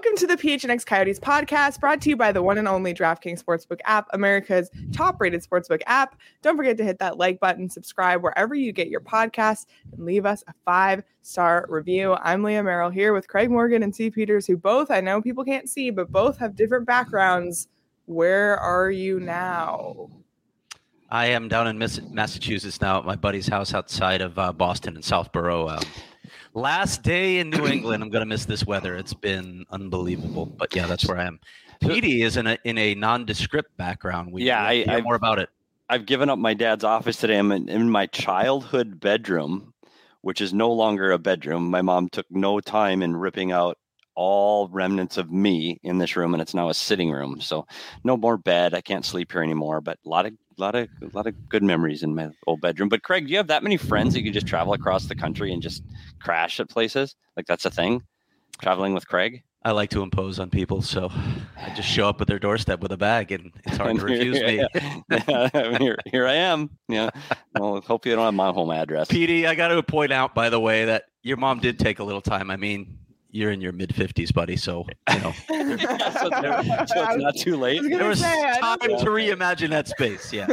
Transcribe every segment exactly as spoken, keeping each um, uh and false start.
Welcome to the P H N X Coyotes podcast, brought to you by the one and only DraftKings Sportsbook app, America's top-rated sportsbook app. Don't forget to hit that like button, subscribe wherever you get your podcasts, and leave us a five-star review. I'm Leah Merrill here with Craig Morgan and C. Peters, who both, I know people can't see, but both have different backgrounds. Where are you now? I am down in Massachusetts now at my buddy's house outside of uh, Boston and Southborough. Um, last day in New England. I'm going to miss this weather. It's been unbelievable. But yeah, that's where I am. Petey is in a in a nondescript background. We yeah, I, I more about it. I've given up my dad's office today. I'm in, in my childhood bedroom, which is no longer a bedroom. My mom took no time in ripping out all remnants of me in this room, and it's now a sitting room. So no more bed. I can't sleep here anymore. But a lot of A lot of a lot of good memories in my old bedroom. But Craig, do you have that many friends that you could just travel across the country and just crash at places? Like that's a thing? Traveling with Craig? I like to impose on people, so I just show up at their doorstep with a bag, and it's hard and to refuse here, me. Yeah, yeah, here, here I am. Yeah. Well, hope you don't have my home address. Petey, I got to point out, by the way, that your mom did take a little time. I mean, you're in your mid fifties, buddy, so, you know. yeah, so, there, so it's not too late. There was say, time to reimagine that space, yeah.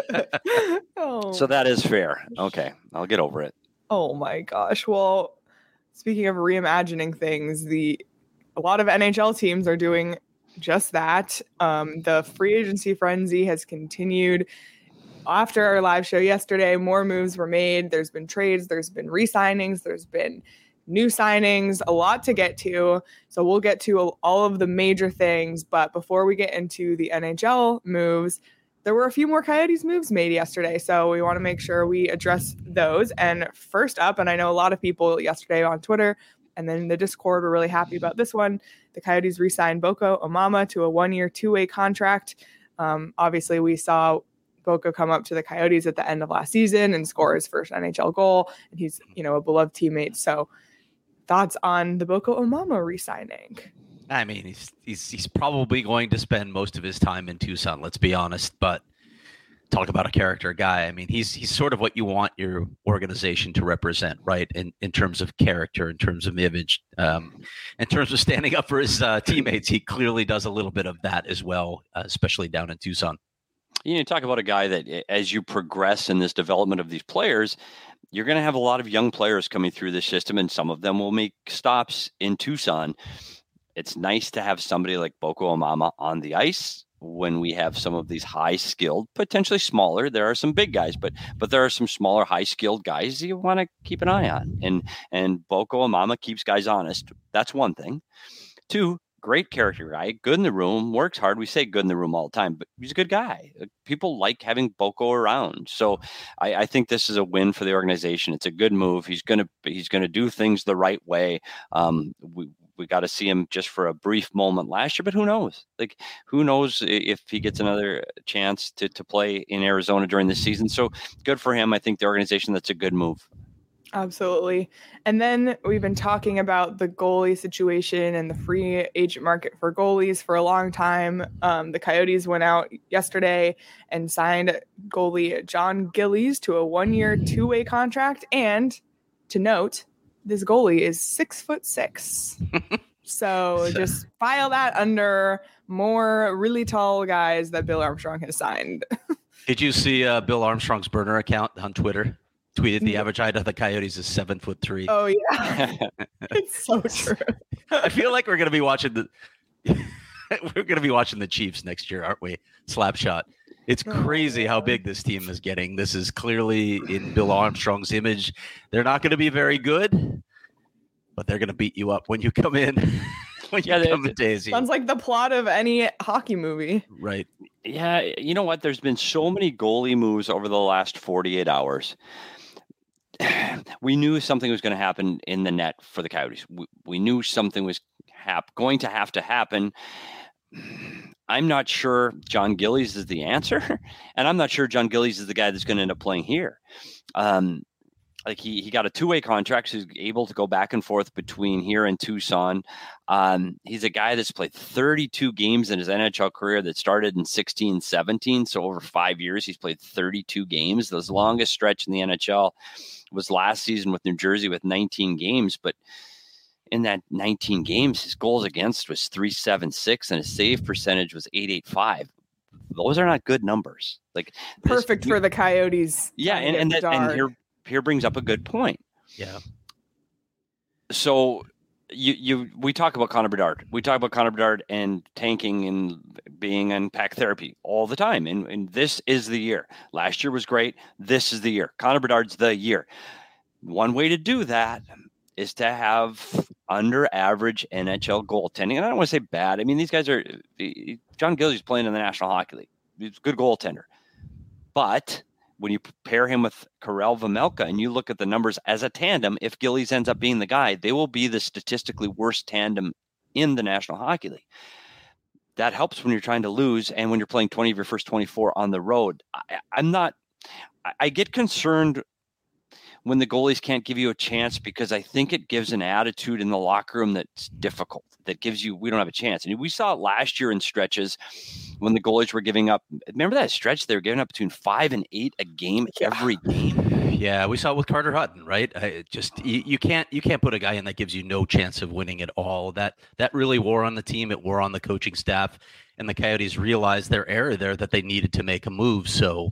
oh. So that is fair. Okay, I'll get over it. Oh, my gosh. Well, speaking of reimagining things, the a lot of N H L teams are doing just that. Um, the free agency frenzy has continued. After our live show yesterday, more moves were made. There's been trades. There's been re-signings. There's been new signings, a lot to get to. So we'll get to all of the major things. But before we get into the N H L moves, there were a few more Coyotes moves made yesterday. So we want to make sure we address those. And first up, and I know a lot of people yesterday on Twitter and then the Discord were really happy about this one. The Coyotes re-signed Boko Imama to a one-year, two-way contract. Um, obviously, we saw Boko come up to the Coyotes at the end of last season and score his first N H L goal. And he's, you know, a beloved teammate. So thoughts on the Boko Imama re-signing? I mean, he's, he's he's probably going to spend most of his time in Tucson, let's be honest. But talk about a character guy. I mean, he's he's sort of what you want your organization to represent, right? In in terms of character, in terms of image, um, in terms of standing up for his uh, teammates. He clearly does a little bit of that as well, uh, especially down in Tucson. You know, talk about a guy that as you progress in this development of these players, you're going to have a lot of young players coming through the system, and some of them will make stops in Tucson. It's nice to have somebody like Boko Imama on the ice when we have some of these high-skilled, potentially smaller. There are some big guys, but but there are some smaller, high-skilled guys you want to keep an eye on. And, and Boko Imama keeps guys honest. That's one thing. Two, great character guy, good in the room, works hard. We say good in the room all the time, but he's a good guy. People like having Boko around. So I, I think this is a win for the organization. It's a good move. He's going to he's going to do things the right way. Um, we we got to see him just for a brief moment last year, but who knows? Like, who knows if he gets another chance to to play in Arizona during this season. So good for him. I think the organization, that's a good move. Absolutely. And then we've been talking about the goalie situation and the free agent market for goalies for a long time. Um, the Coyotes went out yesterday and signed goalie John Gillies to a one-year, two-way contract. And to note, this goalie is six foot six. So just file that under more really tall guys that Bill Armstrong has signed. Did you see uh, Bill Armstrong's burner account on Twitter? Tweeted the average height of the Coyotes is seven foot three. Oh yeah, it's so true. I feel like we're gonna be watching the we're gonna be watching the Chiefs next year, aren't we? Slapshot. It's crazy how big this team is getting. This is clearly in Bill Armstrong's image. They're not going to be very good, but they're going to beat you up when you come in. when you yeah, come to Daisy. Sounds like the plot of any hockey movie. Right. Yeah, you know what? There's been so many goalie moves over the last forty-eight hours. We knew something was going to happen in the net for the Coyotes. We, we knew something was hap- going to have to happen. I'm not sure John Gillies is the answer, and I'm not sure John Gillies is the guy that's going to end up playing here. Um, like he he got a two-way contract, so he's able to go back and forth between here and Tucson. Um, he's a guy that's played thirty-two games in his N H L career that started in sixteen seventeen. So over five years, he's played thirty-two games. The longest stretch in the N H L was last season with New Jersey with nineteen games. But in that nineteen games, his goals against was three seventy-six and his save percentage was eight eighty-five. Those are not good numbers. Like perfect this, for the Coyotes. Yeah, and and, that, and here here brings up a good point. Yeah. So you you we talk about Connor Bedard. We talk about Connor Bedard and tanking and being in pack therapy all the time. And, and this is the year. Last year was great. This is the year. Connor Bedard's the year. One way to do that is to have under average N H L goaltending. And I don't want to say bad. I mean, these guys are John Gillies playing in the National Hockey League. He's a good goaltender. But when you pair him with Karel Vejmelka and you look at the numbers as a tandem, if Gillies ends up being the guy, they will be the statistically worst tandem in the National Hockey League. That helps when you're trying to lose and when you're playing twenty of your first twenty-four on the road. I, I'm not – I get concerned when the goalies can't give you a chance because I think it gives an attitude in the locker room that's difficult, that gives you – we don't have a chance. And we saw it last year in stretches – when the goalies were giving up, remember that stretch? They were giving up between five and eight a game every game. Yeah, we saw it with Carter Hutton, right? I just you, you can't you can't put a guy in that gives you no chance of winning at all. That that really wore on the team. It wore on the coaching staff, and the Coyotes realized their error there that they needed to make a move. So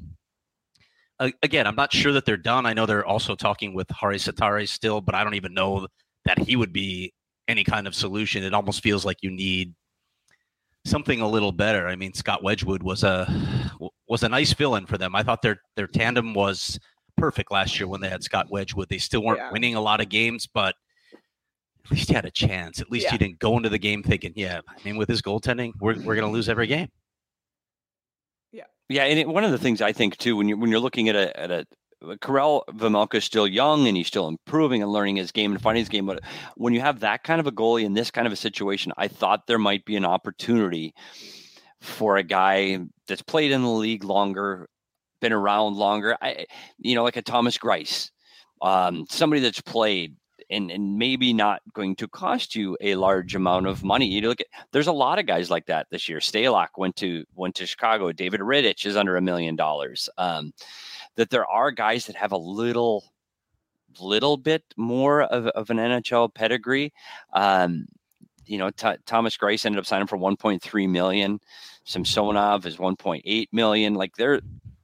uh, again, I'm not sure that they're done. I know they're also talking with Hari Satare still, but I don't even know that he would be any kind of solution. It almost feels like you need something a little better. I mean, Scott Wedgwood was a was a nice fill-in for them. I thought their their tandem was perfect last year when they had Scott Wedgwood. They still weren't yeah. winning a lot of games, but at least you had a chance. At least yeah. you didn't go into the game thinking, yeah, I mean, with his goaltending, we're we're going to lose every game. Yeah, yeah, and it, one of the things I think too, when you when you're looking at a at a Karel Vejmelka is still young and he's still improving and learning his game and finding his game. But when you have that kind of a goalie in this kind of a situation, I thought there might be an opportunity for a guy that's played in the league longer, been around longer. I, you know, like a Thomas Greiss, um, somebody that's played and, and maybe not going to cost you a large amount of money. You look at, there's a lot of guys like that this year. Stalock went to, went to Chicago. David Rittich is under a million dollars. Um, that there are guys that have a little, little bit more of, of an N H L pedigree. Um, you know, T- Thomas Greiss ended up signing for one point three million. Samsonov is one point eight million. Like they're,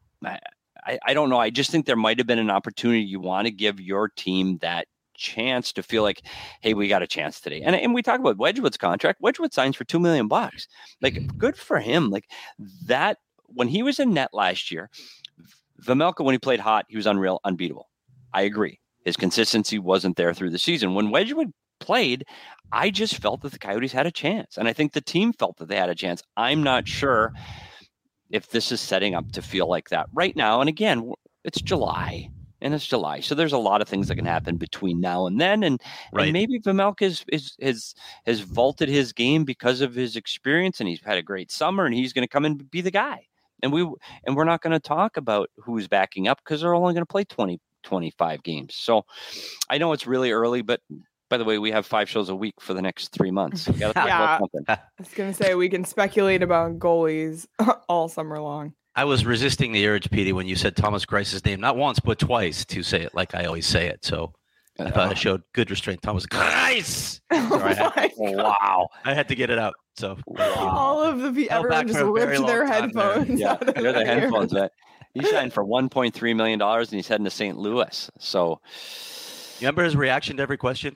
I, I don't know. I just think there might've been an opportunity. You want to give your team that chance to feel like, hey, we got a chance today. And, and we talk about Wedgwood's contract. Wedgwood signs for two million bucks. Like good for him. Like that, when he was in net last year, Vejmelka, when he played hot, he was unreal, unbeatable. I agree. His consistency wasn't there through the season. When Wedgwood played, I just felt that the Coyotes had a chance. And I think the team felt that they had a chance. I'm not sure if this is setting up to feel like that right now. And again, it's July. And it's July. So there's a lot of things that can happen between now and then. And, right. and maybe Vejmelka is, is, is, has vaulted his game because of his experience. And he's had a great summer. And he's going to come and be the guy. And we and we're not going to talk about who's backing up because they're only going to play twenty, twenty-five games. So I know it's really early, but by the way, we have five shows a week for the next three months. We gotta talk yeah, about something. I was going to say we can speculate about goalies all summer long. I was resisting the urge, Petey, when you said Thomas Greiss's name, not once, but twice, to say it like I always say it. So I thought I showed good restraint. Thomas Greiss. Oh I had, wow. I had to get it out. So all of the people, everyone just ripped their headphones. Yeah, they're the headphones. But he signed for one point three million dollars and he's heading to Saint Louis. So you remember his reaction to every question?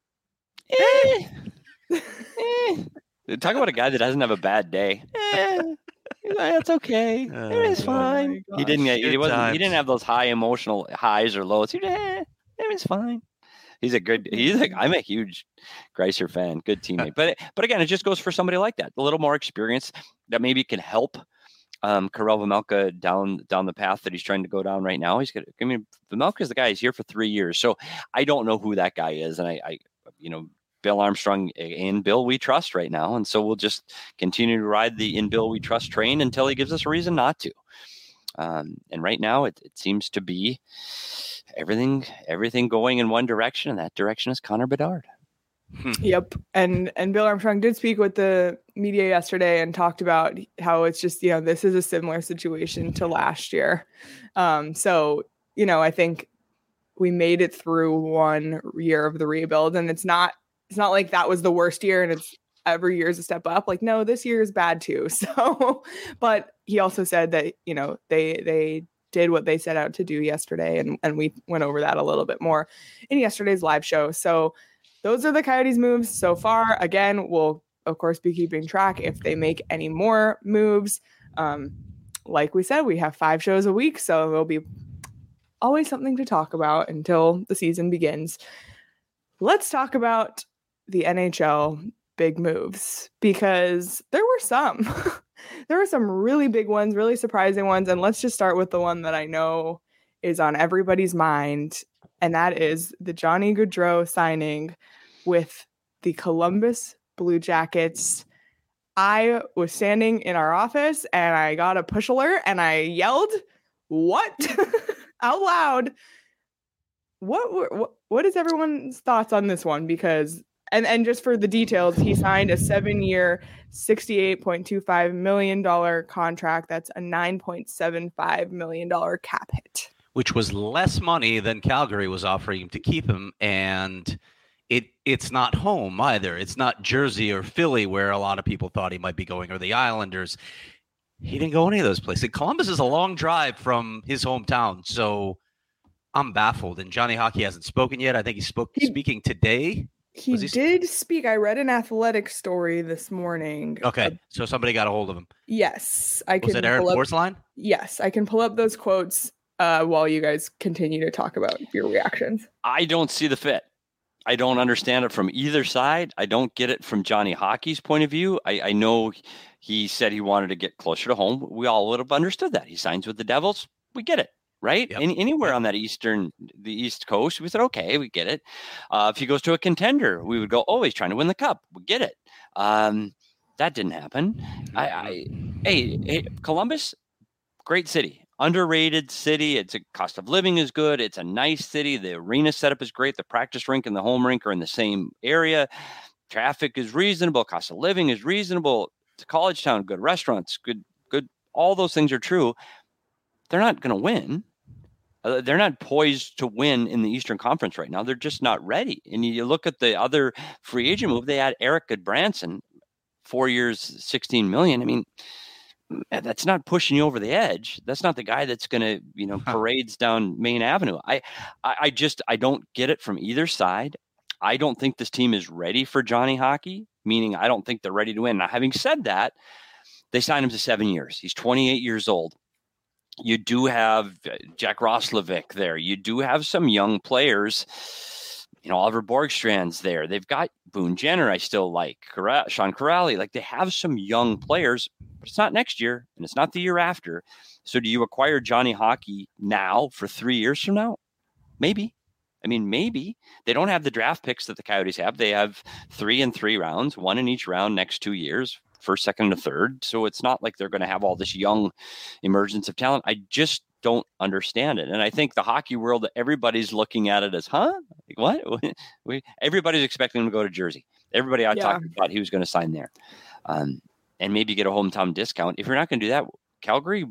Eh, eh. Talk about a guy that doesn't have a bad day. Eh. That's okay. Oh, it's fine. Oh he didn't. He wasn't. He didn't have those high emotional highs or lows. He, eh, it's fine. He's a good. He's like. I'm a huge Greisser fan. Good teammate. But but again, it just goes for somebody like that, a little more experience that maybe can help um, Karel Vejmelka down down the path that he's trying to go down right now. He's got. I mean, Vejmelka is the guy. He's here for three years, so I don't know who that guy is, and I, I you know. Bill Armstrong and Bill we trust right now. And so we'll just continue to ride the in Bill we trust train until he gives us a reason not to. Um, and right now it, it seems to be everything, everything going in one direction, and that direction is Connor Bedard. Yep. And, and Bill Armstrong did speak with the media yesterday and talked about how it's just, you know, this is a similar situation to last year. Um, so, you know, I think we made it through one year of the rebuild, and it's not, it's not like that was the worst year and it's every year is a step up. Like, no, this year is bad too. So, but he also said that, you know, they, they did what they set out to do yesterday. And, and we went over that a little bit more in yesterday's live show. So those are the Coyotes moves so far. Again, we'll of course be keeping track if they make any more moves. Um, like we said, we have five shows a week, so there'll be always something to talk about until the season begins. Let's talk about the N H L big moves, because there were some. There were some really big ones, really surprising ones, and let's just start with the one that I know is on everybody's mind, and that is the Johnny Gaudreau signing with the Columbus Blue Jackets. I was standing in our office and I got a push alert and I yelled, "What?" out loud. What, what what is everyone's thoughts on this one? Because and and just for the details, he signed a seven-year, sixty-eight point two five million dollars contract. That's a nine point seven five million dollars cap hit, which was less money than Calgary was offering him to keep him. And it it's not home either. It's not Jersey or Philly, where a lot of people thought he might be going, or the Islanders. He didn't go any of those places. Columbus is a long drive from his hometown, so I'm baffled. And Johnny Hockey hasn't spoken yet. I think he spoke he, speaking today. He, he did speak. I read an Athletic story this morning. Okay, uh, so somebody got a hold of him. Yes, I was can. Was it Aaron Porcelain? Yes, I can pull up those quotes uh, while you guys continue to talk about your reactions. I don't see the fit. I don't understand it from either side. I don't get it from Johnny Hockey's point of view. I, I know he said he wanted to get closer to home. We all would have understood that. He signs with the Devils. We get it, right? Yep. Any, anywhere on that eastern, the East Coast, we said, okay, we get it. Uh, if he goes to a contender, we would go, oh, he's trying to win the cup. We get it. Um, that didn't happen. I, I hey, hey, Columbus, great city. Underrated city. It's a cost of living is good. It's a nice city. The arena setup is great. The practice rink and the home rink are in the same area. Traffic is reasonable. Cost of living is reasonable. It's a college town. Good restaurants. Good, good. All those things are true. They're not going to win. Uh, they're not poised to win in the Eastern Conference right now. They're just not ready. And you look at the other free agent move. They had Eric Goodbranson, four years, sixteen million. I mean, that's not pushing you over the edge. That's not the guy that's going to, you know, parades down Main Avenue. I, I, I just, I don't get it from either side. I don't think this team is ready for Johnny Hockey, meaning I don't think they're ready to win. Now, having said that, they signed him to seven years. He's twenty-eight years old. You do have Jack Roslovic there. You do have some young players. You know, Oliver Borgstrand's there. They've got Boone Jenner, I still like. Corral, Sean Corrali. Like, they have some young players, but it's not next year, and it's not the year after. So do you acquire Johnny Hockey now for three years from now? Maybe. I mean, maybe. They don't have the draft picks that the Coyotes have. They have three and three rounds, one in each round next two years, first, second, and third. So it's not like they're going to have all this young emergence of talent. I just don't understand it. And I think the hockey world, everybody's looking at it as, huh? Like, what? we, everybody's expecting him to go to Jersey. Everybody I yeah. talked about, he was going to sign there. Um, and maybe get a hometown discount. If you're not going to do that, Calgary,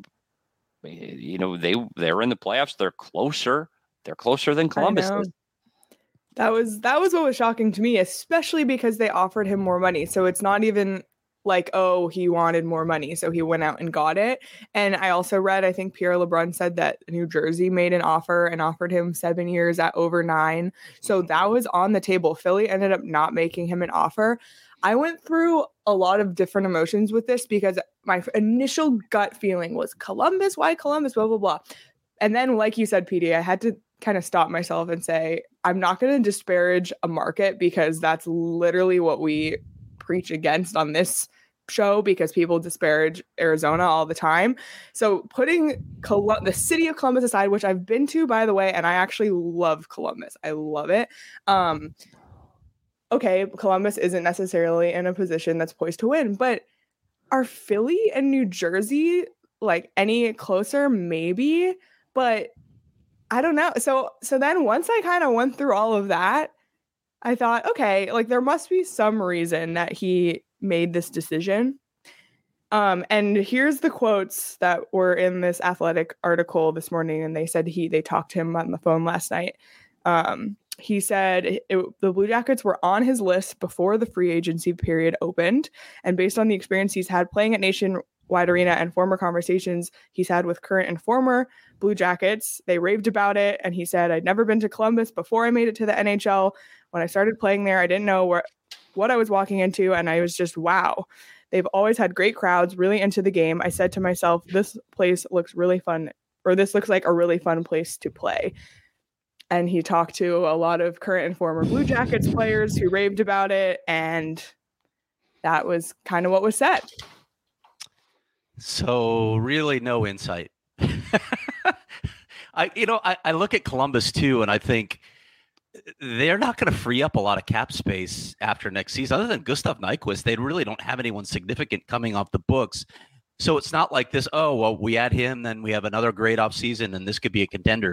you know, they, they're in the playoffs. They're closer. They're closer than Columbus is. That was, that was what was shocking to me, especially because they offered him more money. So it's not even like, oh, he wanted more money, so he went out and got it. And I also read, I think Pierre LeBrun said that New Jersey made an offer and offered him seven years at over nine. So that was on the table. Philly ended up not making him an offer. I went through a lot of different emotions with this because my initial gut feeling was Columbus, why Columbus, blah, blah, blah. And then, like you said, P D, I had to kind of stop myself and say, I'm not going to disparage a market, because that's literally what we preach against on this show, because people disparage Arizona all the time. So putting Col- the city of Columbus aside, which I've been to, by the way, and I actually love Columbus. I love it. Um, okay, Columbus isn't necessarily in a position that's poised to win, but are Philly and New Jersey like any closer? Maybe, but I don't know. So, so then once I kind of went through all of that, I thought, okay, like there must be some reason that he made this decision. Um, and here's the quotes that were in this Athletic article this morning. And they said he, they talked to him on the phone last night. Um, he said it, the Blue Jackets were on his list before the free agency period opened. And based on the experience he's had playing at Nationwide Arena and former conversations he's had with current and former Blue Jackets, they raved about it. And he said, I'd never been to Columbus before I made it to the N H L. When I started playing there, I didn't know where, what I was walking into. And I was just, wow. They've always had great crowds, really into the game. I said to myself, this place looks really fun, or this looks like a really fun place to play. And he talked to a lot of current and former Blue Jackets players who raved about it. And that was kind of what was said. So really no insight. I, you know, I, I look at Columbus too, and I think they're not going to free up a lot of cap space after next season. Other than Gustav Nyquist, they really don't have anyone significant coming off the books. So it's not like this, oh, well, we add him, then we have another great offseason, and this could be a contender.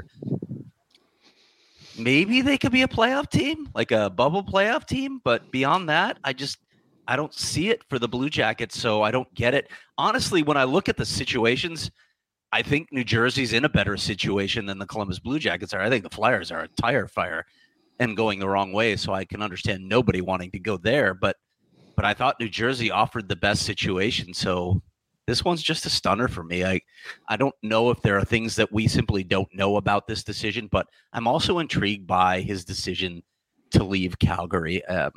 Maybe they could be a playoff team, like a bubble playoff team. But beyond that, I just I don't see it for the Blue Jackets, so I don't get it. Honestly, when I look at the situations, I think New Jersey's in a better situation than the Columbus Blue Jackets are. I think the Flyers are a tire fire and going the wrong way, so I can understand nobody wanting to go there. But but I thought New Jersey offered the best situation, so this one's just a stunner for me. I, I don't know if there are things that we simply don't know about this decision, but I'm also intrigued by his decision to leave Calgary. Um,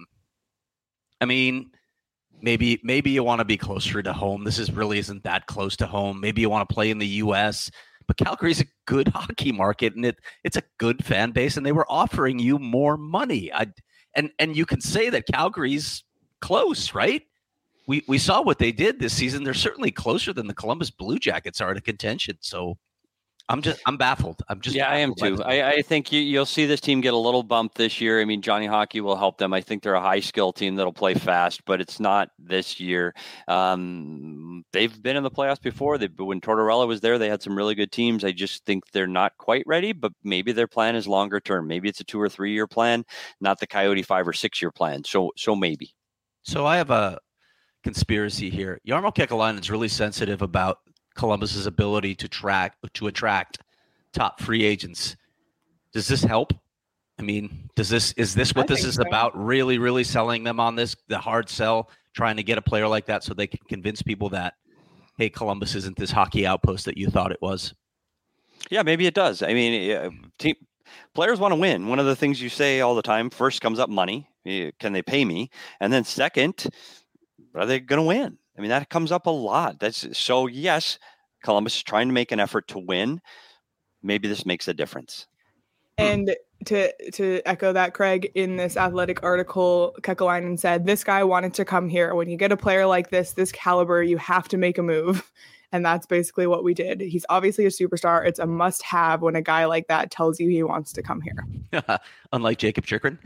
I mean, maybe maybe you want to be closer to home. This is really isn't that close to home. Maybe you want to play in the U S, but Calgary's a good hockey market, and it it's a good fan base, and they were offering you more money. I and and you can say that Calgary's close, right? We we saw what they did this season. They're certainly closer than the Columbus Blue Jackets are to contention. So I'm just I'm baffled. I'm just yeah, I am too. I, I think you, you'll see this team get a little bump this year. I mean, Johnny Hockey will help them. I think they're a high skill team that'll play fast, but it's not this year. Um, they've been in the playoffs before. They when Tortorella was there, they had some really good teams. I just think they're not quite ready. But maybe their plan is longer term. Maybe it's a two or three year plan, not the Coyote five or six year plan. So so maybe. So I have a conspiracy here. Jarmo Kekalainen is really sensitive about Columbus's ability to track to attract top free agents. Does this help? I mean, does this is this what I this is so. about? Really, really selling them on this, the hard sell, trying to get a player like that so they can convince people that, hey, Columbus isn't this hockey outpost that you thought it was. Yeah, maybe it does. I mean, team players want to win. One of the things you say all the time, first comes up money. Can they pay me? And then second, are they going to win? I mean, that comes up a lot. That's so, yes, Columbus is trying to make an effort to win. Maybe this makes a difference. And to to echo that, Craig, in this Athletic article, Kekalainen said, this guy wanted to come here. When you get a player like this, this caliber, you have to make a move. And that's basically what we did. He's obviously a superstar. It's a must-have when a guy like that tells you he wants to come here. Unlike Jacob Chychrun.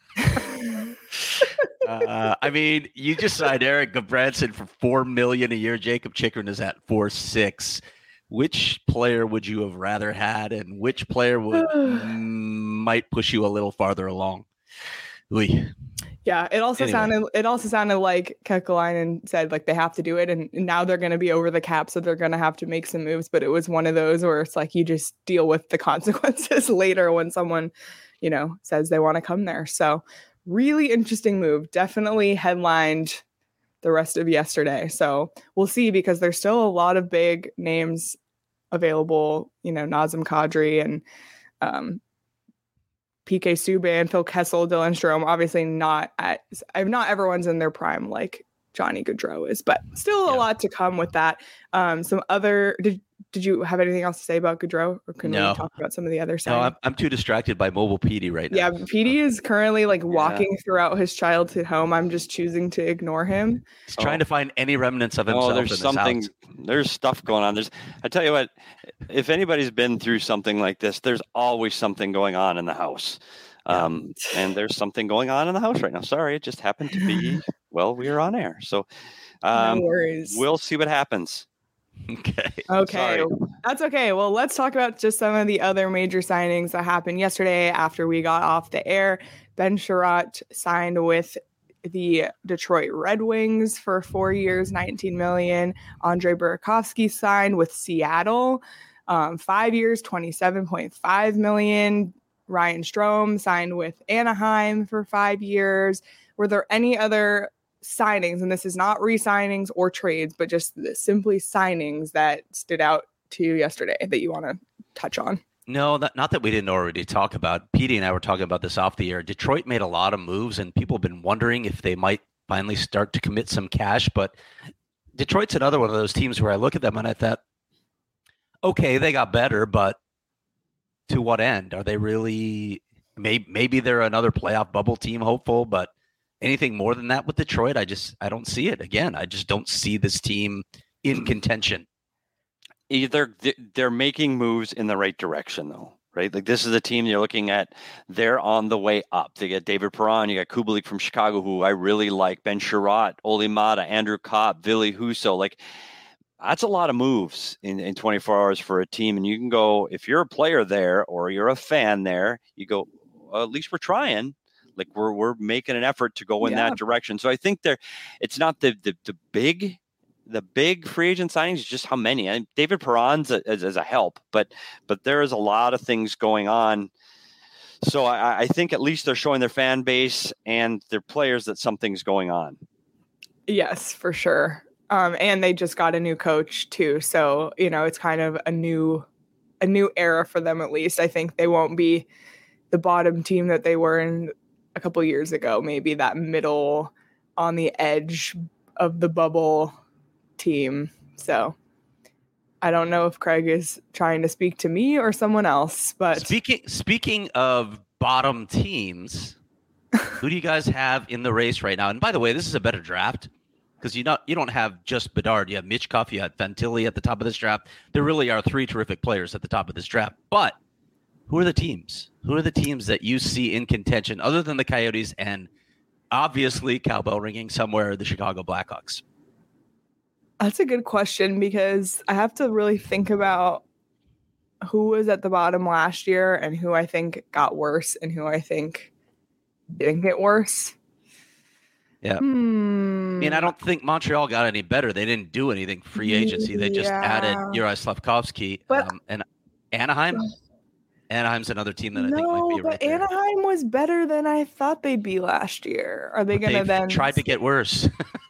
uh, I mean, you just signed Eric Gudbranson for four million dollars a year. Jacob Chychrun is at four six. Which player would you have rather had, and which player would might push you a little farther along? Oy. Yeah, it also Anyway. sounded it also sounded like Kekalainen said like they have to do it, and now they're going to be over the cap, so they're going to have to make some moves. But it was one of those where it's like you just deal with the consequences later when someone, you know, says they want to come there. So really interesting move. Definitely headlined the rest of yesterday. So we'll see, because there's still a lot of big names available. You know, Nazem Kadri and um, P K Subban, Phil Kessel, Dylan Strome. Obviously not at, not everyone's in their prime like Johnny Gaudreau is, but still a Yeah. lot to come with that. Um, some other, did did you have anything else to say about Gaudreau, or can No. we talk about some of the other No, side? I'm, I'm too distracted by Mobile P D right now. Yeah, P D is currently like walking throughout his childhood home. I'm just choosing to ignore him. He's trying Oh. to find any remnants of himself Oh, in there's this something, house. there's stuff going on. There's, I tell you what, if anybody's been through something like this, there's always something going on in the house. Um, and there's something going on in the house right now. Sorry, it just happened to be, well, we are on air. So um, no worries. we'll see what happens. Okay. Okay, Sorry. that's okay. Well, let's talk about just some of the other major signings that happened yesterday after we got off the air. Ben Sherratt signed with the Detroit Red Wings for four years, nineteen million dollars. Andre Burakovsky signed with Seattle, um, five years, twenty-seven point five million dollars. Ryan Strome signed with Anaheim for five years. Were there any other signings, and this is not re-signings or trades, but just simply signings that stood out to you yesterday that you want to touch on? No, that, not that we didn't already talk about. Petey and I were talking about this off the air. Detroit made a lot of moves, and people have been wondering if they might finally start to commit some cash. But Detroit's another one of those teams where I look at them and I thought, okay, they got better, but to what end? Are they really maybe, maybe they're another playoff bubble team hopeful, but anything more than that with Detroit, I just I don't see it. Again, I just don't see this team in contention. Either they're making moves in the right direction, though, right? Like this is a team you're looking at. They're on the way up. They get David Perron, you got Kubalik from Chicago, who I really like, Ben Sherratt, Oli Mata, Andrew Kopp, Ville Husso. Like that's a lot of moves in, in twenty-four hours for a team. And you can go, if you're a player there or you're a fan there, you go, well, at least we're trying. Like we're we're making an effort to go in yeah. that direction. So I think there, it's not the the, the big the big free agent signings, just how many. And David Perron's a, as, as a help, but but there is a lot of things going on. So I, I think at least they're showing their fan base and their players that something's going on. Yes, for sure. Um, and they just got a new coach too, so you know it's kind of a new a new era for them. At least I think they won't be the bottom team that they were in a couple years ago, maybe that middle on the edge of the bubble team. So I don't know if Craig is trying to speak to me or someone else, but speaking, speaking of bottom teams, who do you guys have in the race right now? And by the way, this is a better draft because you not, you don't have just Bedard. You have Michkov, you have Fantilli at the top of this draft. There really are three terrific players at the top of this draft, but who are the teams? Who are the teams that you see in contention other than the Coyotes and obviously cowbell ringing somewhere, the Chicago Blackhawks? That's a good question because I have to really think about who was at the bottom last year and who I think got worse and who I think didn't get worse. Yeah. Hmm. I mean, I don't think Montreal got any better. They didn't do anything free agency. They just Yeah. added Juraj Slafkovsky. But- um, and Anaheim? Anaheim's another team that I think No, might be but right there. Anaheim was better than I thought they'd be last year. Are they But going to they've then tried to get worse.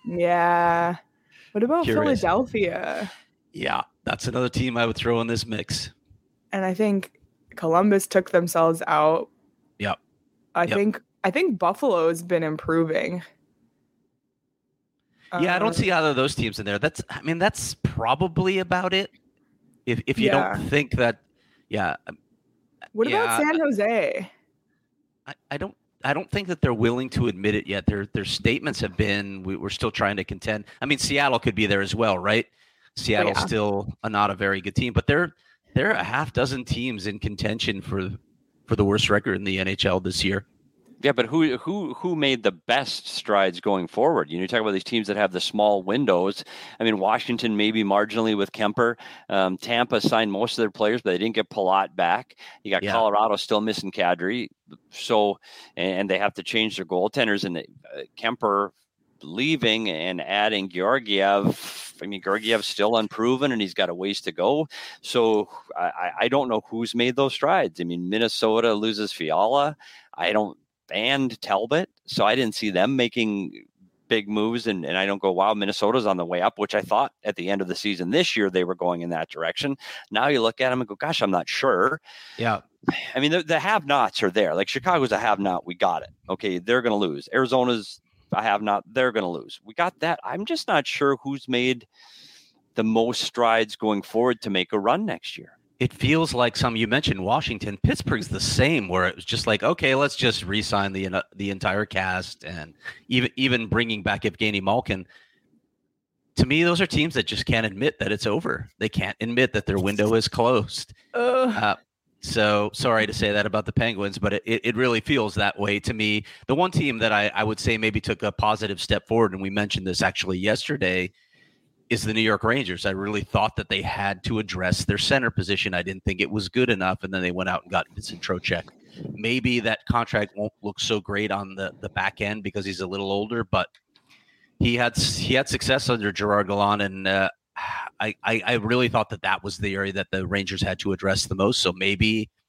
Yeah. What about Curious. Philadelphia? Yeah, that's another team I would throw in this mix. And I think Columbus took themselves out. Yep. I Yep. think I think Buffalo's been improving. Yeah, I don't Um, see either of those teams in there. That's, I mean, that's probably about it. If if you Yeah. don't think that, yeah, What yeah, about San Jose? I, I don't. I don't think that they're willing to admit it yet. Their their statements have been, we, we're still trying to contend. I mean, Seattle could be there as well, right? Seattle's yeah. still a, not a very good team, but they're they're a half dozen teams in contention for for the worst record in the N H L this year. Yeah, but who who who made the best strides going forward? You know, you talk about these teams that have the small windows. I mean, Washington maybe marginally with Kemper. Um, Tampa signed most of their players, but they didn't get Palat back. You got Yeah. Colorado still missing Kadri, so and they have to change their goaltenders. And uh, Kemper leaving and adding Georgiev. I mean, Georgiev's still unproven, and he's got a ways to go. So I, I don't know who's made those strides. I mean, Minnesota loses Fiala. I don't. And Talbot. So I didn't see them making big moves. And, and I don't go, wow, Minnesota's on the way up, which I thought at the end of the season this year, they were going in that direction. Now you look at them and go, gosh, I'm not sure. Yeah. I mean, the, the have-nots are there. Like Chicago's a have-not. We got it. Okay. They're going to lose. Arizona's a have-not. They're going to lose. We got that. I'm just not sure who's made the most strides going forward to make a run next year. It feels like some, you mentioned Washington, Pittsburgh's the same, where it was just like, okay, let's just re-sign the the entire cast, and even even bringing back Evgeny Malkin. To me, those are teams that just can't admit that it's over. They can't admit that their window is closed. Uh, so sorry to say that about the Penguins, but it, it really feels that way to me. The one team that I, I would say maybe took a positive step forward, and we mentioned this actually yesterday, is the New York Rangers. I really thought that they had to address their center position. I didn't think it was good enough, and then they went out and got Vincent Trocheck. Maybe that contract won't look so great on the, the back end because he's a little older, but he had he had success under Gerard Gallant, and uh, I, I I really thought that that was the area that the Rangers had to address the most. So maybe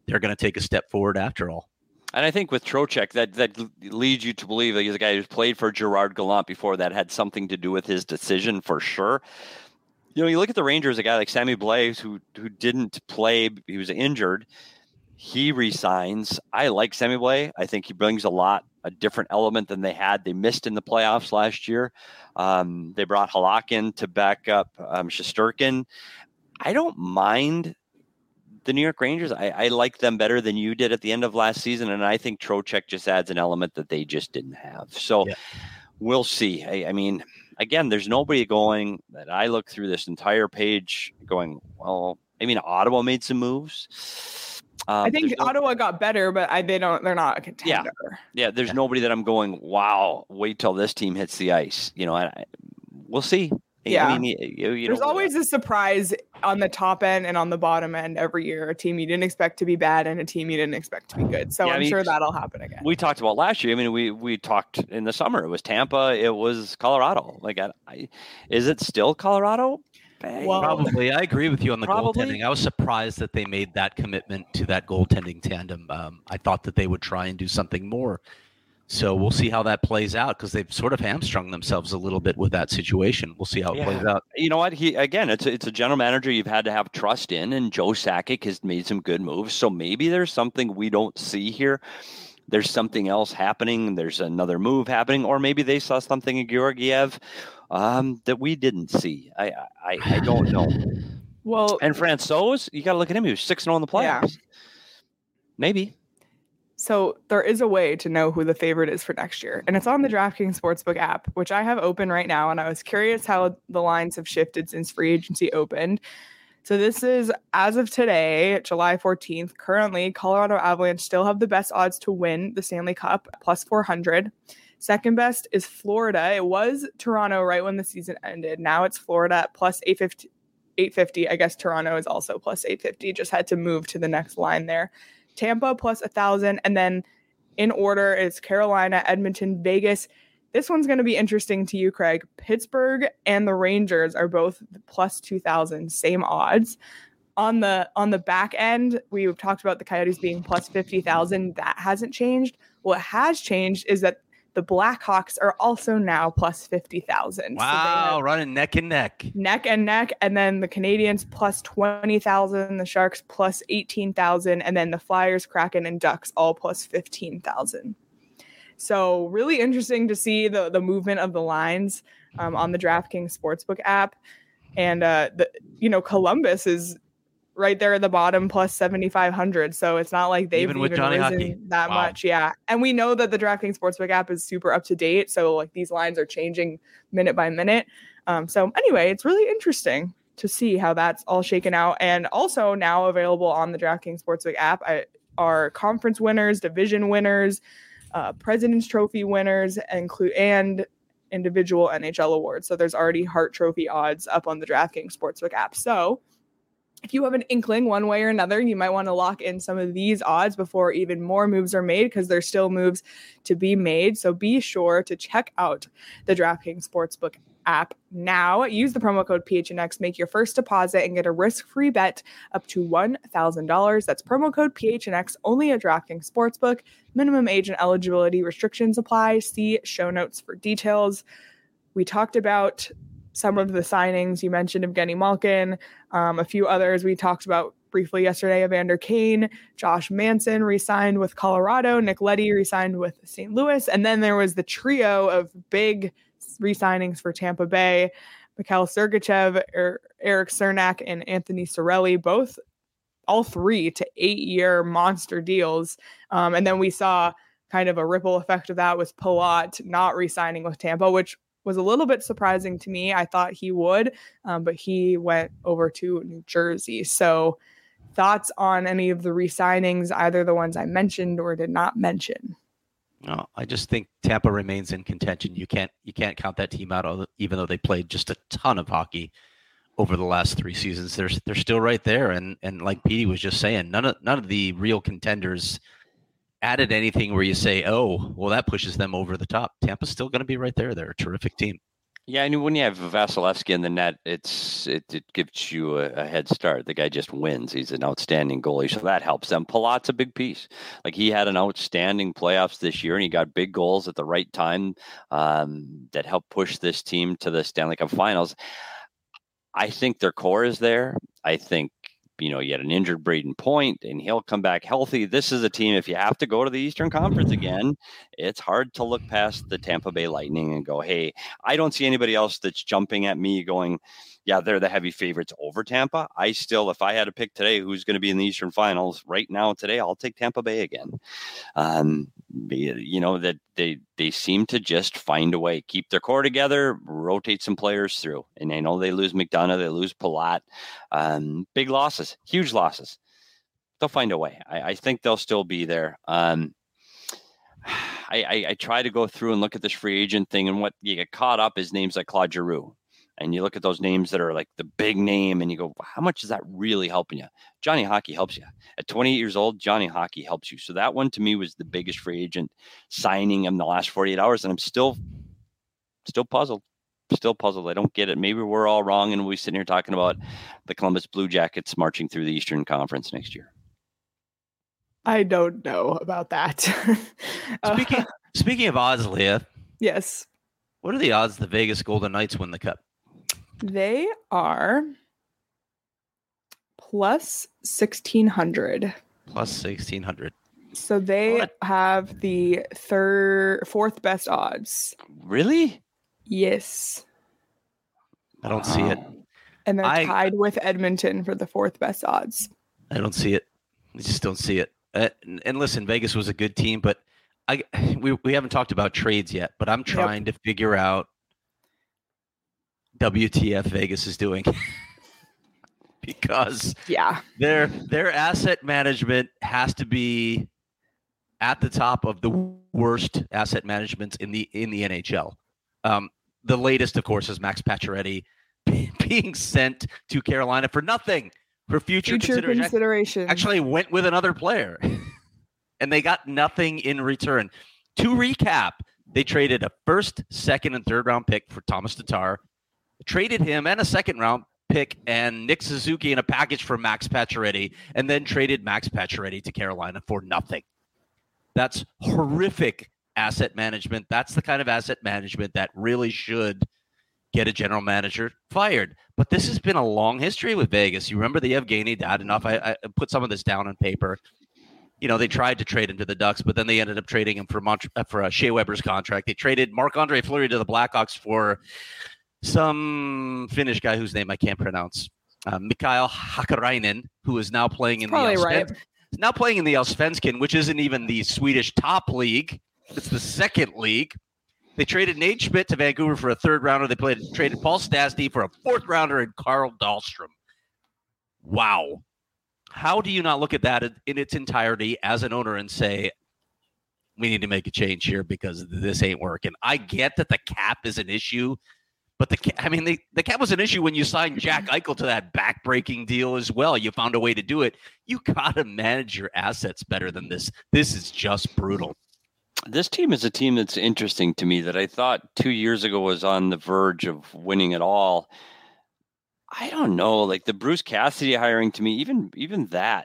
they're going to take a step forward after all. And I think with Trocheck, that that leads you to believe that he's a guy who's played for Gerard Gallant before. That had something to do with his decision for sure. You know, you look at the Rangers, a guy like Sammy Blais, who who didn't play, he was injured. He resigns. I like Sammy Blais. I think he brings a lot, a different element than they had. They missed in the playoffs last year. Um, they brought Halak in to back up um, Shesterkin. I don't mind the New York Rangers. I, I like them better than you did at the end of last season, and I think Trocheck just adds an element that they just didn't have. So yeah. We'll see. I, I mean, again, there's nobody going that I look through this entire page going, well, I mean, Ottawa made some moves. Um, I think no, Ottawa got better, but I, they don't, they're not a contender. Yeah. Yeah. There's yeah. nobody that I'm going, wow, wait till this team hits the ice. You know, and I, we'll see. Yeah, I mean, you, you there's always a surprise on the top end and on the bottom end every year. A team you didn't expect to be bad and a team you didn't expect to be good. So yeah, I'm I mean, sure that'll happen again. We talked about last year. I mean, we we talked in the summer. It was Tampa. It was Colorado. Like, I, I, is it still Colorado? Well, probably. I agree with you on the probably. goaltending. I was surprised that they made that commitment to that goaltending tandem. Um, I thought that they would try and do something more. So we'll see how that plays out because they've sort of hamstrung themselves a little bit with that situation. We'll see how it yeah. plays out. You know what? He again, it's a, it's a general manager you've had to have trust in, and Joe Sakic has made some good moves. So maybe there's something we don't see here. There's something else happening. There's another move happening, or maybe they saw something in Georgiev um, that we didn't see. I I, I don't know. Well, and Francouz, you got to look at him. He was six and zero in the playoffs. Yeah. Maybe. So there is a way to know who the favorite is for next year, and it's on the DraftKings Sportsbook app, which I have open right now, and I was curious how the lines have shifted since free agency opened. So this is, as of today, July fourteenth, currently Colorado Avalanche still have the best odds to win the Stanley Cup, plus four hundred. Second best is Florida. It was Toronto right when the season ended. Now it's Florida at plus eight fifty. I guess Toronto is also plus eight fifty, just had to move to the next line there. Tampa plus one thousand, and then in order is Carolina, Edmonton, Vegas. This one's going to be interesting to you, Craig. Pittsburgh and the Rangers are both plus two thousand, same odds. On the on the back end, we've talked about the Coyotes being plus fifty thousand. That hasn't changed. What has changed is that the Blackhawks are also now plus fifty thousand. Wow, so running neck and neck. Neck and neck. And then the Canadians plus twenty thousand, the Sharks plus eighteen thousand, and then the Flyers, Kraken, and Ducks all plus fifteen thousand. So really interesting to see the, the movement of the lines um, on the DraftKings Sportsbook app. And, uh, the you know, Columbus is right there at the bottom plus seventy-five hundred. So it's not like they've even, with even Johnny risen Hockey. that Wow. much. Yeah. And we know that the DraftKings Sportsbook app is super up to date. So like these lines are changing minute by minute. Um, so anyway, it's really interesting to see how that's all shaken out. And also now available on the DraftKings Sportsbook app I, are conference winners, division winners, uh, President's Trophy winners, include and individual N H L awards. So there's already Hart Trophy odds up on the DraftKings Sportsbook app. So if you have an inkling one way or another, you might want to lock in some of these odds before even more moves are made, because there's still moves to be made. So be sure to check out the DraftKings Sportsbook app now. Use the promo code P H N X, make your first deposit, and get a risk-free bet up to one thousand dollars. That's promo code P H N X only at DraftKings Sportsbook. Minimum age and eligibility restrictions apply. See show notes for details. We talked about some of the signings. You mentioned Evgeny Malkin, um, a few others we talked about briefly yesterday. Evander Kane, Josh Manson re-signed with Colorado, Nick Leddy re-signed with Saint Louis, and then there was the trio of big re-signings for Tampa Bay: Mikhail Sergachev, er- Eric Cernak, and Anthony Cirelli, both all three to eight-year monster deals. Um, and then we saw kind of a ripple effect of that with Palat not re-signing with Tampa, which was a little bit surprising to me. I thought he would, um, but he went over to New Jersey. So thoughts on any of the re-signings, either the ones I mentioned or did not mention? No, I just think Tampa remains in contention. You can't you can't count that team out, even though they played just a ton of hockey over the last three seasons. They're they're still right there, and and like Petey was just saying, none of none of the real contenders added anything where you say, oh, well, that pushes them over the top. Tampa's still going to be right there. They're a terrific team. Yeah, and when you have Vasilevsky in the net, it's it, it gives you a, a head start. The guy just wins. He's an outstanding goalie, so that helps them. Palat's a big piece. Like, he had an outstanding playoffs this year, and he got big goals at the right time um, that helped push this team to the Stanley Cup Finals. I think their core is there. I think, you know, you had an injured Braden Point, and he'll come back healthy. This is a team, if you have to go to the Eastern Conference again, it's hard to look past the Tampa Bay Lightning and go, hey, I don't see anybody else that's jumping at me going, yeah, they're the heavy favorites over Tampa. I still, if I had to pick today who's going to be in the Eastern Finals right now today, I'll take Tampa Bay again. Um, you know, that they they seem to just find a way, keep their core together, rotate some players through. And I know they lose McDonough, they lose Palat, um, big losses, huge losses. They'll find a way. I, I think they'll still be there. Um, I, I, I try to go through and look at this free agent thing, and what you get caught up is names like Claude Giroux. And you look at those names that are like the big name, and you go, how much is that really helping you? Johnny Hockey helps you. At twenty-eight years old, Johnny Hockey helps you. So that one to me was the biggest free agent signing in the last forty-eight hours. And I'm still, still puzzled, still puzzled. I don't get it. Maybe we're all wrong, and we're sitting here talking about the Columbus Blue Jackets marching through the Eastern Conference next year. I don't know about that. Speaking, uh, speaking of odds, Leah. Yes. What are the odds the Vegas Golden Knights win the Cup? They are plus sixteen hundred. Plus sixteen hundred. So they What? have the third, fourth best odds. Really? Yes. I don't see it. And they're I- tied with Edmonton for the fourth best odds. I don't see it. I just don't see it. Uh, and, and listen, Vegas was a good team, but I we we haven't talked about trades yet. But I'm trying yep. to figure out W T F Vegas is doing because yeah, their their asset management has to be at the top of the worst asset managements in the in the N H L. Um, the latest, of course, is Max Pacioretty being sent to Carolina for nothing. For future, future consideration. consideration. Actually went with another player. And they got nothing in return. To recap, they traded a first, second, and third round pick for Thomas Tatar. Traded him and a second round pick and Nick Suzuki in a package for Max Pacioretty. And then traded Max Pacioretty to Carolina for nothing. That's horrific asset management. That's the kind of asset management that really should get a general manager fired. But this has been a long history with Vegas. You remember the Evgeny Dadonov? I, I put some of this down on paper. You know, they tried to trade him to the Ducks, but then they ended up trading him for Mont- for uh, Shea Weber's contract. They traded Marc-Andre Fleury to the Blackhawks for some Finnish guy whose name I can't pronounce. Uh, Mikael Hakkarainen, who is now playing in the Probably Allsven- right. now playing in the Allsvenskan, which isn't even the Swedish top league. It's the second league. They traded Nate Schmidt to Vancouver for a third rounder. They played, traded Paul Stastny for a fourth rounder and Carl Dahlstrom. Wow. How do you not look at that in its entirety as an owner and say, we need to make a change here because this ain't working? I get that the cap is an issue, but the cap, I mean, the, the cap was an issue when you signed Jack Eichel to that back-breaking deal as well. You found a way to do it. You got to manage your assets better than this. This is just brutal. This team is a team that's interesting to me that I thought two years ago was on the verge of winning it all. I don't know, like the Bruce Cassidy hiring to me, even even that.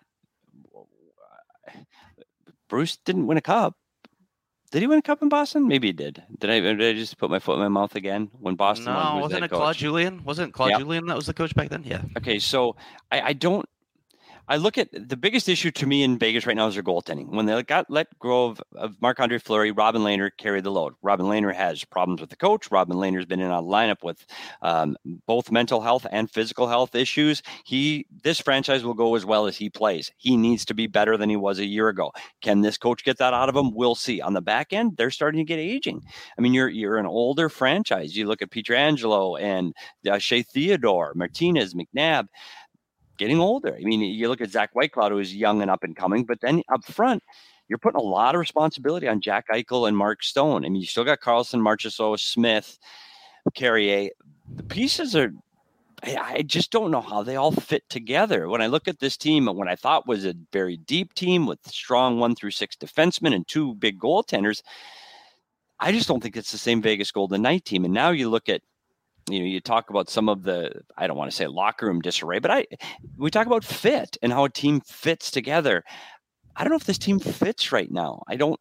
Bruce didn't win a cup. Did he win a cup in Boston? Maybe he did. Did I, did I just put my foot in my mouth again when Boston no, won? Who was wasn't that it coach? Claude Julien? Wasn't it Claude Yeah. Julien that was the coach back then? Yeah. Okay, so I, I don't. I look at the biggest issue to me in Vegas right now is their goaltending. When they got let go of, of Marc-Andre Fleury, Robin Lehner carried the load. Robin Lehner has problems with the coach. Robin Lehner's been in a lineup with um, both mental health and physical health issues. He, this franchise will go as well as he plays. He needs to be better than he was a year ago. Can this coach get that out of him? We'll see. On the back end, they're starting to get aging. I mean, you're you're an older franchise. You look at Pietrangelo and uh, Shea Theodore, Martinez, McNabb. Getting older. I mean, you look at Zach Whitecloud, who is young and up and coming, but then up front, you're putting a lot of responsibility on Jack Eichel and Mark Stone. I mean, you still got Carlson, Marchessault, Smith, Carrier. The pieces are, I, I just don't know how they all fit together. When I look at this team, what I thought was a very deep team with strong one through six defensemen and two big goaltenders, I just don't think it's the same Vegas Golden Knight team. And now you look at you know, you talk about some of the, I don't want to say locker room disarray, but I, we talk about fit and how a team fits together. I don't know if this team fits right now. I don't,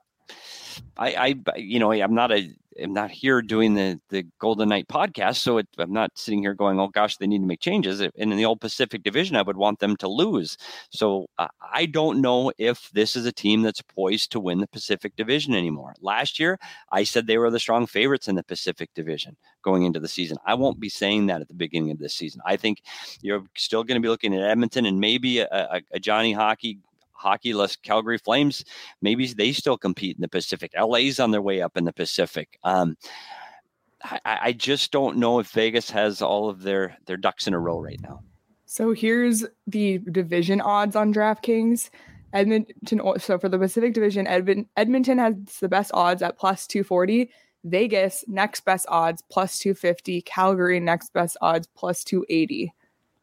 I, I, you know, I'm not a, I'm not here doing the, the Golden Knight podcast. So it, I'm not sitting here going, oh gosh, they need to make changes. And in the old Pacific Division, I would want them to lose. So uh, I don't know if this is a team that's poised to win the Pacific Division anymore. Last year, I said they were the strong favorites in the Pacific Division going into the season. I won't be saying that at the beginning of this season. I think you're still going to be looking at Edmonton and maybe a, a, a Johnny Hockey Hockey-less Calgary Flames. Maybe they still compete in the Pacific. L A's on their way up in the Pacific. Um, I, I just don't know if Vegas has all of their, their ducks in a row right now. So here's the division odds on DraftKings. Edmonton. So for the Pacific Division, Edmont, Edmonton has the best odds at plus two forty. Vegas, next best odds, plus two fifty. Calgary, next best odds, plus two eighty.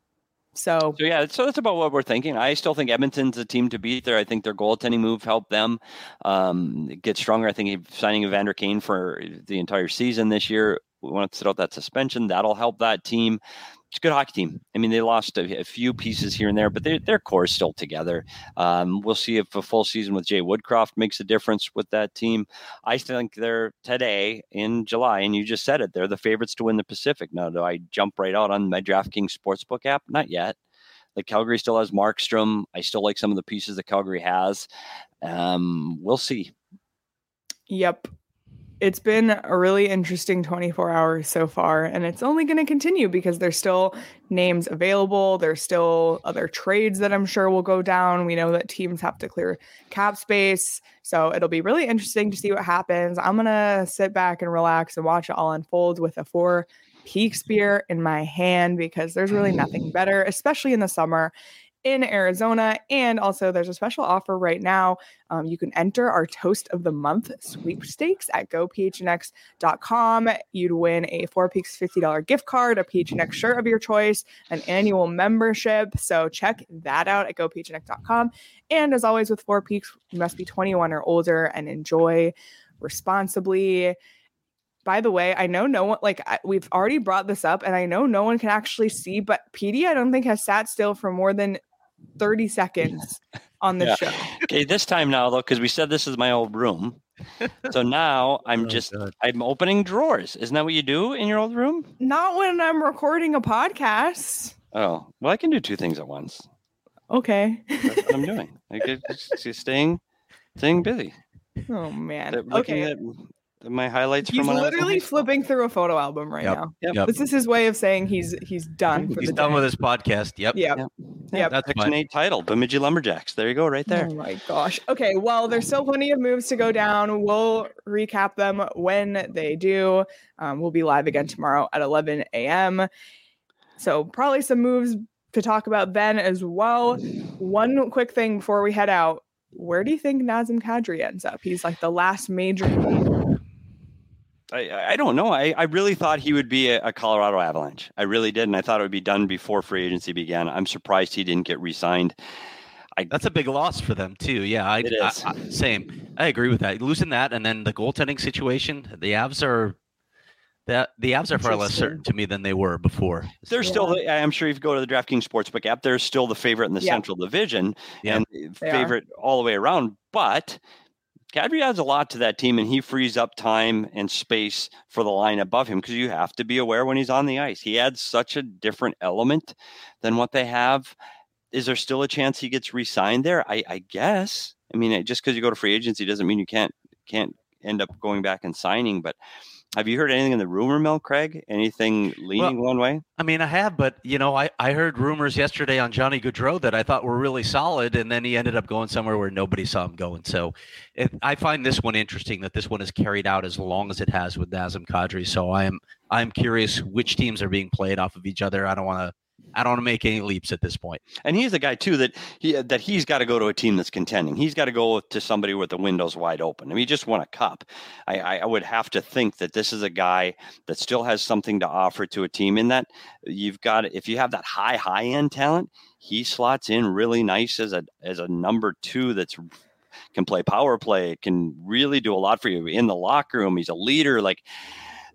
So, so yeah, so that's about what we're thinking. I still think Edmonton's a team to beat there. I think their goaltending move helped them um, get stronger. I think signing Evander Kane for the entire season this year, we want to sit out that suspension. That'll help that team. It's a good hockey team. I mean, they lost a, a few pieces here and there, but they, their core is still together. Um, we'll see if a full season with Jay Woodcroft makes a difference with that team. I think they're today in July, and you just said it, they're the favorites to win the Pacific. Now, do I jump right out on my DraftKings Sportsbook app? Not yet. Like Calgary still has Markstrom. I still like some of the pieces that Calgary has. Um, we'll see. Yep. It's been a really interesting twenty-four hours so far, and it's only going to continue because there's still names available. There's still other trades that I'm sure will go down. We know that teams have to clear cap space, so it'll be really interesting to see what happens. I'm going to sit back and relax and watch it all unfold with a Four Peaks beer in my hand because there's really nothing better, especially in the summer in Arizona. And also there's a special offer right now. Um, you can enter our Toast of the Month sweepstakes at go p h n x dot com. You'd win a Four Peaks fifty dollars gift card, a P H N X shirt of your choice, an annual membership. So check that out at go p h n x dot com. And as always with Four Peaks, you must be twenty-one or older and enjoy responsibly. By the way, I know no one, like I, we've already brought this up and I know no one can actually see, but P D, I don't think has sat still for more than thirty seconds on the yeah. show. Okay, this time now though, because we said this is my old room. So now I'm oh, just God. I'm opening drawers. Isn't that what you do in your old room? Not when I'm recording a podcast. Oh, well, I can do two things at once. Okay. That's what I'm doing. I get staying staying busy. Oh man. Looking okay. At my highlights he's from when literally flipping through a photo album right yep. now. Yep. Yep. This is his way of saying he's he's done. For he's the done day. with his podcast. Yep. Yep. Yep. Yep. That's Section eight title, Bemidji Lumberjacks. There you go, right there. Oh my gosh. Okay. Well, there's still plenty of moves to go down. We'll recap them when they do. Um, we'll be live again tomorrow at eleven a.m. So probably some moves to talk about then as well. One quick thing before we head out. Where do you think Nazem Kadri ends up? He's like the last major move. I, I don't know. I, I really thought he would be a, a Colorado Avalanche. I really did. And I thought it would be done before free agency began. I'm surprised he didn't get re-signed. I, That's a big loss for them too. Yeah, I, it is. I, I, same. I agree with that. Losing that, and then the goaltending situation. The Avs are that the Avs are far less certain to me than they were before. They're yeah. still. I'm sure if you go to the DraftKings Sportsbook app, they're still the favorite in the yeah. Central Division yeah. and they favorite are. all the way around. But Kadri adds a lot to that team, and he frees up time and space for the line above him because you have to be aware when he's on the ice. He adds such a different element than what they have. Is there still a chance he gets re-signed there? I, I guess. I mean, just because you go to free agency doesn't mean you can't can't end up going back and signing. But have you heard anything in the rumor mill, Craig? Anything leaning well, one way? I mean, I have, but, you know, I, I heard rumors yesterday on Johnny Gaudreau that I thought were really solid, and then he ended up going somewhere where nobody saw him going. So it, I find this one interesting that this one is carried out as long as it has with Nazem Kadri. So I am I'm curious which teams are being played off of each other. I don't want to I don't want to make any leaps at this point. And he's the guy too that he that he's got to go to a team that's contending. He's got to go to somebody with the windows wide open. I mean, he just won a cup. I, I, I would have to think that this is a guy that still has something to offer to a team. In that you've got, if you have that high high end talent, he slots in really nice as a as a number two that's can play power play, can really do a lot for you in the locker room. He's a leader. Like,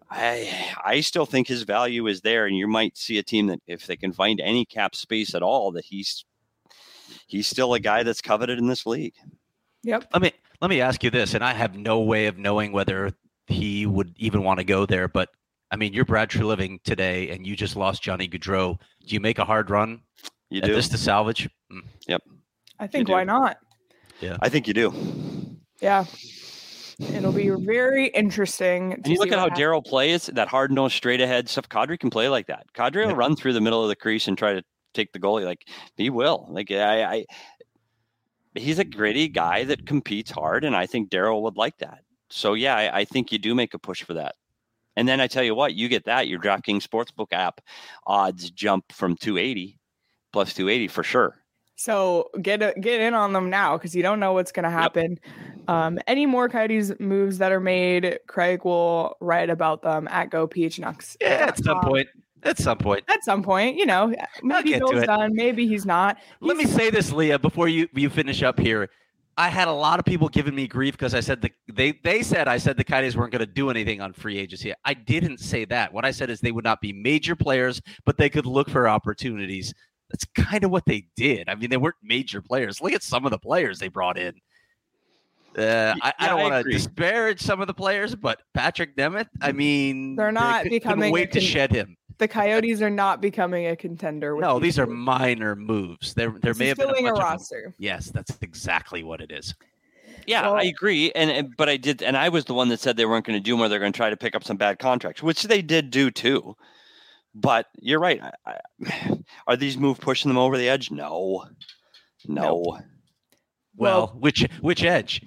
I I still think his value is there, and you might see a team that if they can find any cap space at all, that he's he's still a guy that's coveted in this league. Yep. Let me let me ask you this, and I have no way of knowing whether he would even want to go there, but I mean, you're Brad Treliving today, and you just lost Johnny Gaudreau. Do you make a hard run You at do. this to salvage? Mm. Yep. I think You do. why not? Yeah. I think you do. Yeah. It'll be very interesting. And you look at how Daryl plays, that hard nose, straight ahead stuff. Kadri can play like that. Kadri will Yeah. run through the middle of the crease and try to take the goalie. Like he will. Like I, I he's a gritty guy that competes hard, and I think Daryl would like that. So yeah, I, I think you do make a push for that. And then I tell you what, you get that, your DraftKings Sportsbook app odds jump from two eighty plus two eighty for sure. So get a, get in on them now because you don't know what's going to happen. Yep. Um, any more Coyotes moves that are made, Craig will write about them at GoPHNux. Yeah, at some point. At some point. At some point, you know, maybe Bill's done, maybe he's not. He's, Let me say this, Leah, before you, you finish up here. I had a lot of people giving me grief because I said the, they they said I said the Coyotes weren't going to do anything on free agency. I didn't say that. What I said is they would not be major players, but they could look for opportunities. That's kind of what they did. I mean, they weren't major players. Look at some of the players they brought in. Uh, yeah, I, I don't want to agree. disparage some of the players, but Patrick Nemeth, I mean, they're not they becoming. Wait con- to shed him. The Coyotes are not becoming a contender. With no, these are moves. minor moves. There, there this may is have been filling a, a bunch roster. Of yes, that's exactly what it is. Yeah, well, I agree. And, and but I did, and I was the one that said they weren't going to do more. They're going to try to pick up some bad contracts, which they did do too. But you're right. I, I, are these moves pushing them over the edge? No, no. Nope. Well, Well, which which edge?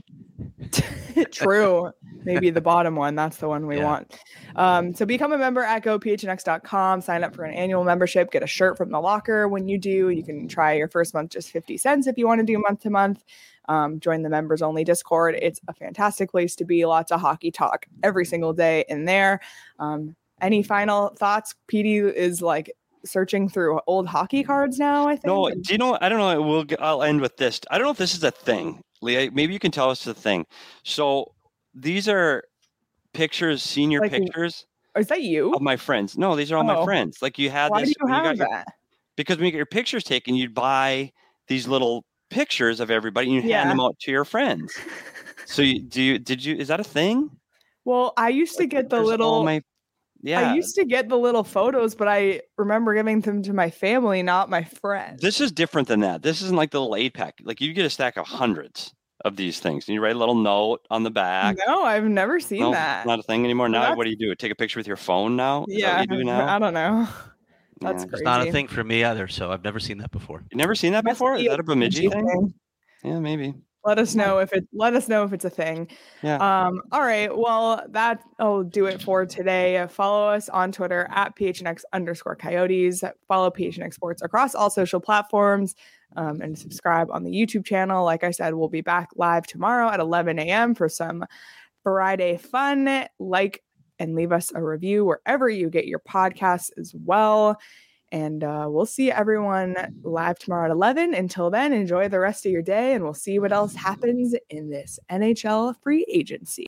True. Maybe the bottom one. That's the one we Yeah. want. Um, so become a member at go p h n x dot com. Sign up for an annual membership. Get a shirt from the locker when you do. You can try your first month just fifty cents if you want to do month to month. Um, join the members only Discord. It's a fantastic place to be. Lots of hockey talk every single day in there. Um, any final thoughts? P D is like searching through old hockey cards now, I think. No, do you know? I don't know. We'll. I'll end with this. I don't know if this is a thing, Leah. Maybe you can tell us the thing. So these are pictures, senior Like, pictures Is that you? of my friends. No, these are all Oh. my friends. Like you had Why this. do you when have got your- that? because when you get your pictures taken, you'd buy these little pictures of everybody and you Yeah. hand them out to your friends. So you, do you? Did you? Is that a thing? Well, I used to Like, get the there's all little. my. Yeah. I used to get the little photos, but I remember giving them to my family, not my friends. This is different than that. This isn't like the little eight pack. Like you get a stack of hundreds of these things, and you write a little note on the back. No, I've never seen No, that. it's not a thing anymore. Now, That's- what do you do? Take a picture with your phone now? Is that Yeah, what you do now? I don't know. That's Yeah. crazy. It's not a thing for me either, so I've never seen that before. You never seen that Must before? be Is that a Bemidji thing? thing. Yeah, maybe. Let us know if it. Let us know if it's a thing. Yeah. Um. All right. Well, that'll do it for today. Follow us on Twitter at P H N X underscore Coyotes. Follow P H N X Sports across all social platforms. Um, and subscribe on the YouTube channel. Like I said, we'll be back live tomorrow at eleven a.m. for some Friday fun. Like and leave us a review wherever you get your podcasts as well. And uh, we'll see everyone live tomorrow at eleven. Until then, enjoy the rest of your day, and we'll see what else happens in this N H L free agency.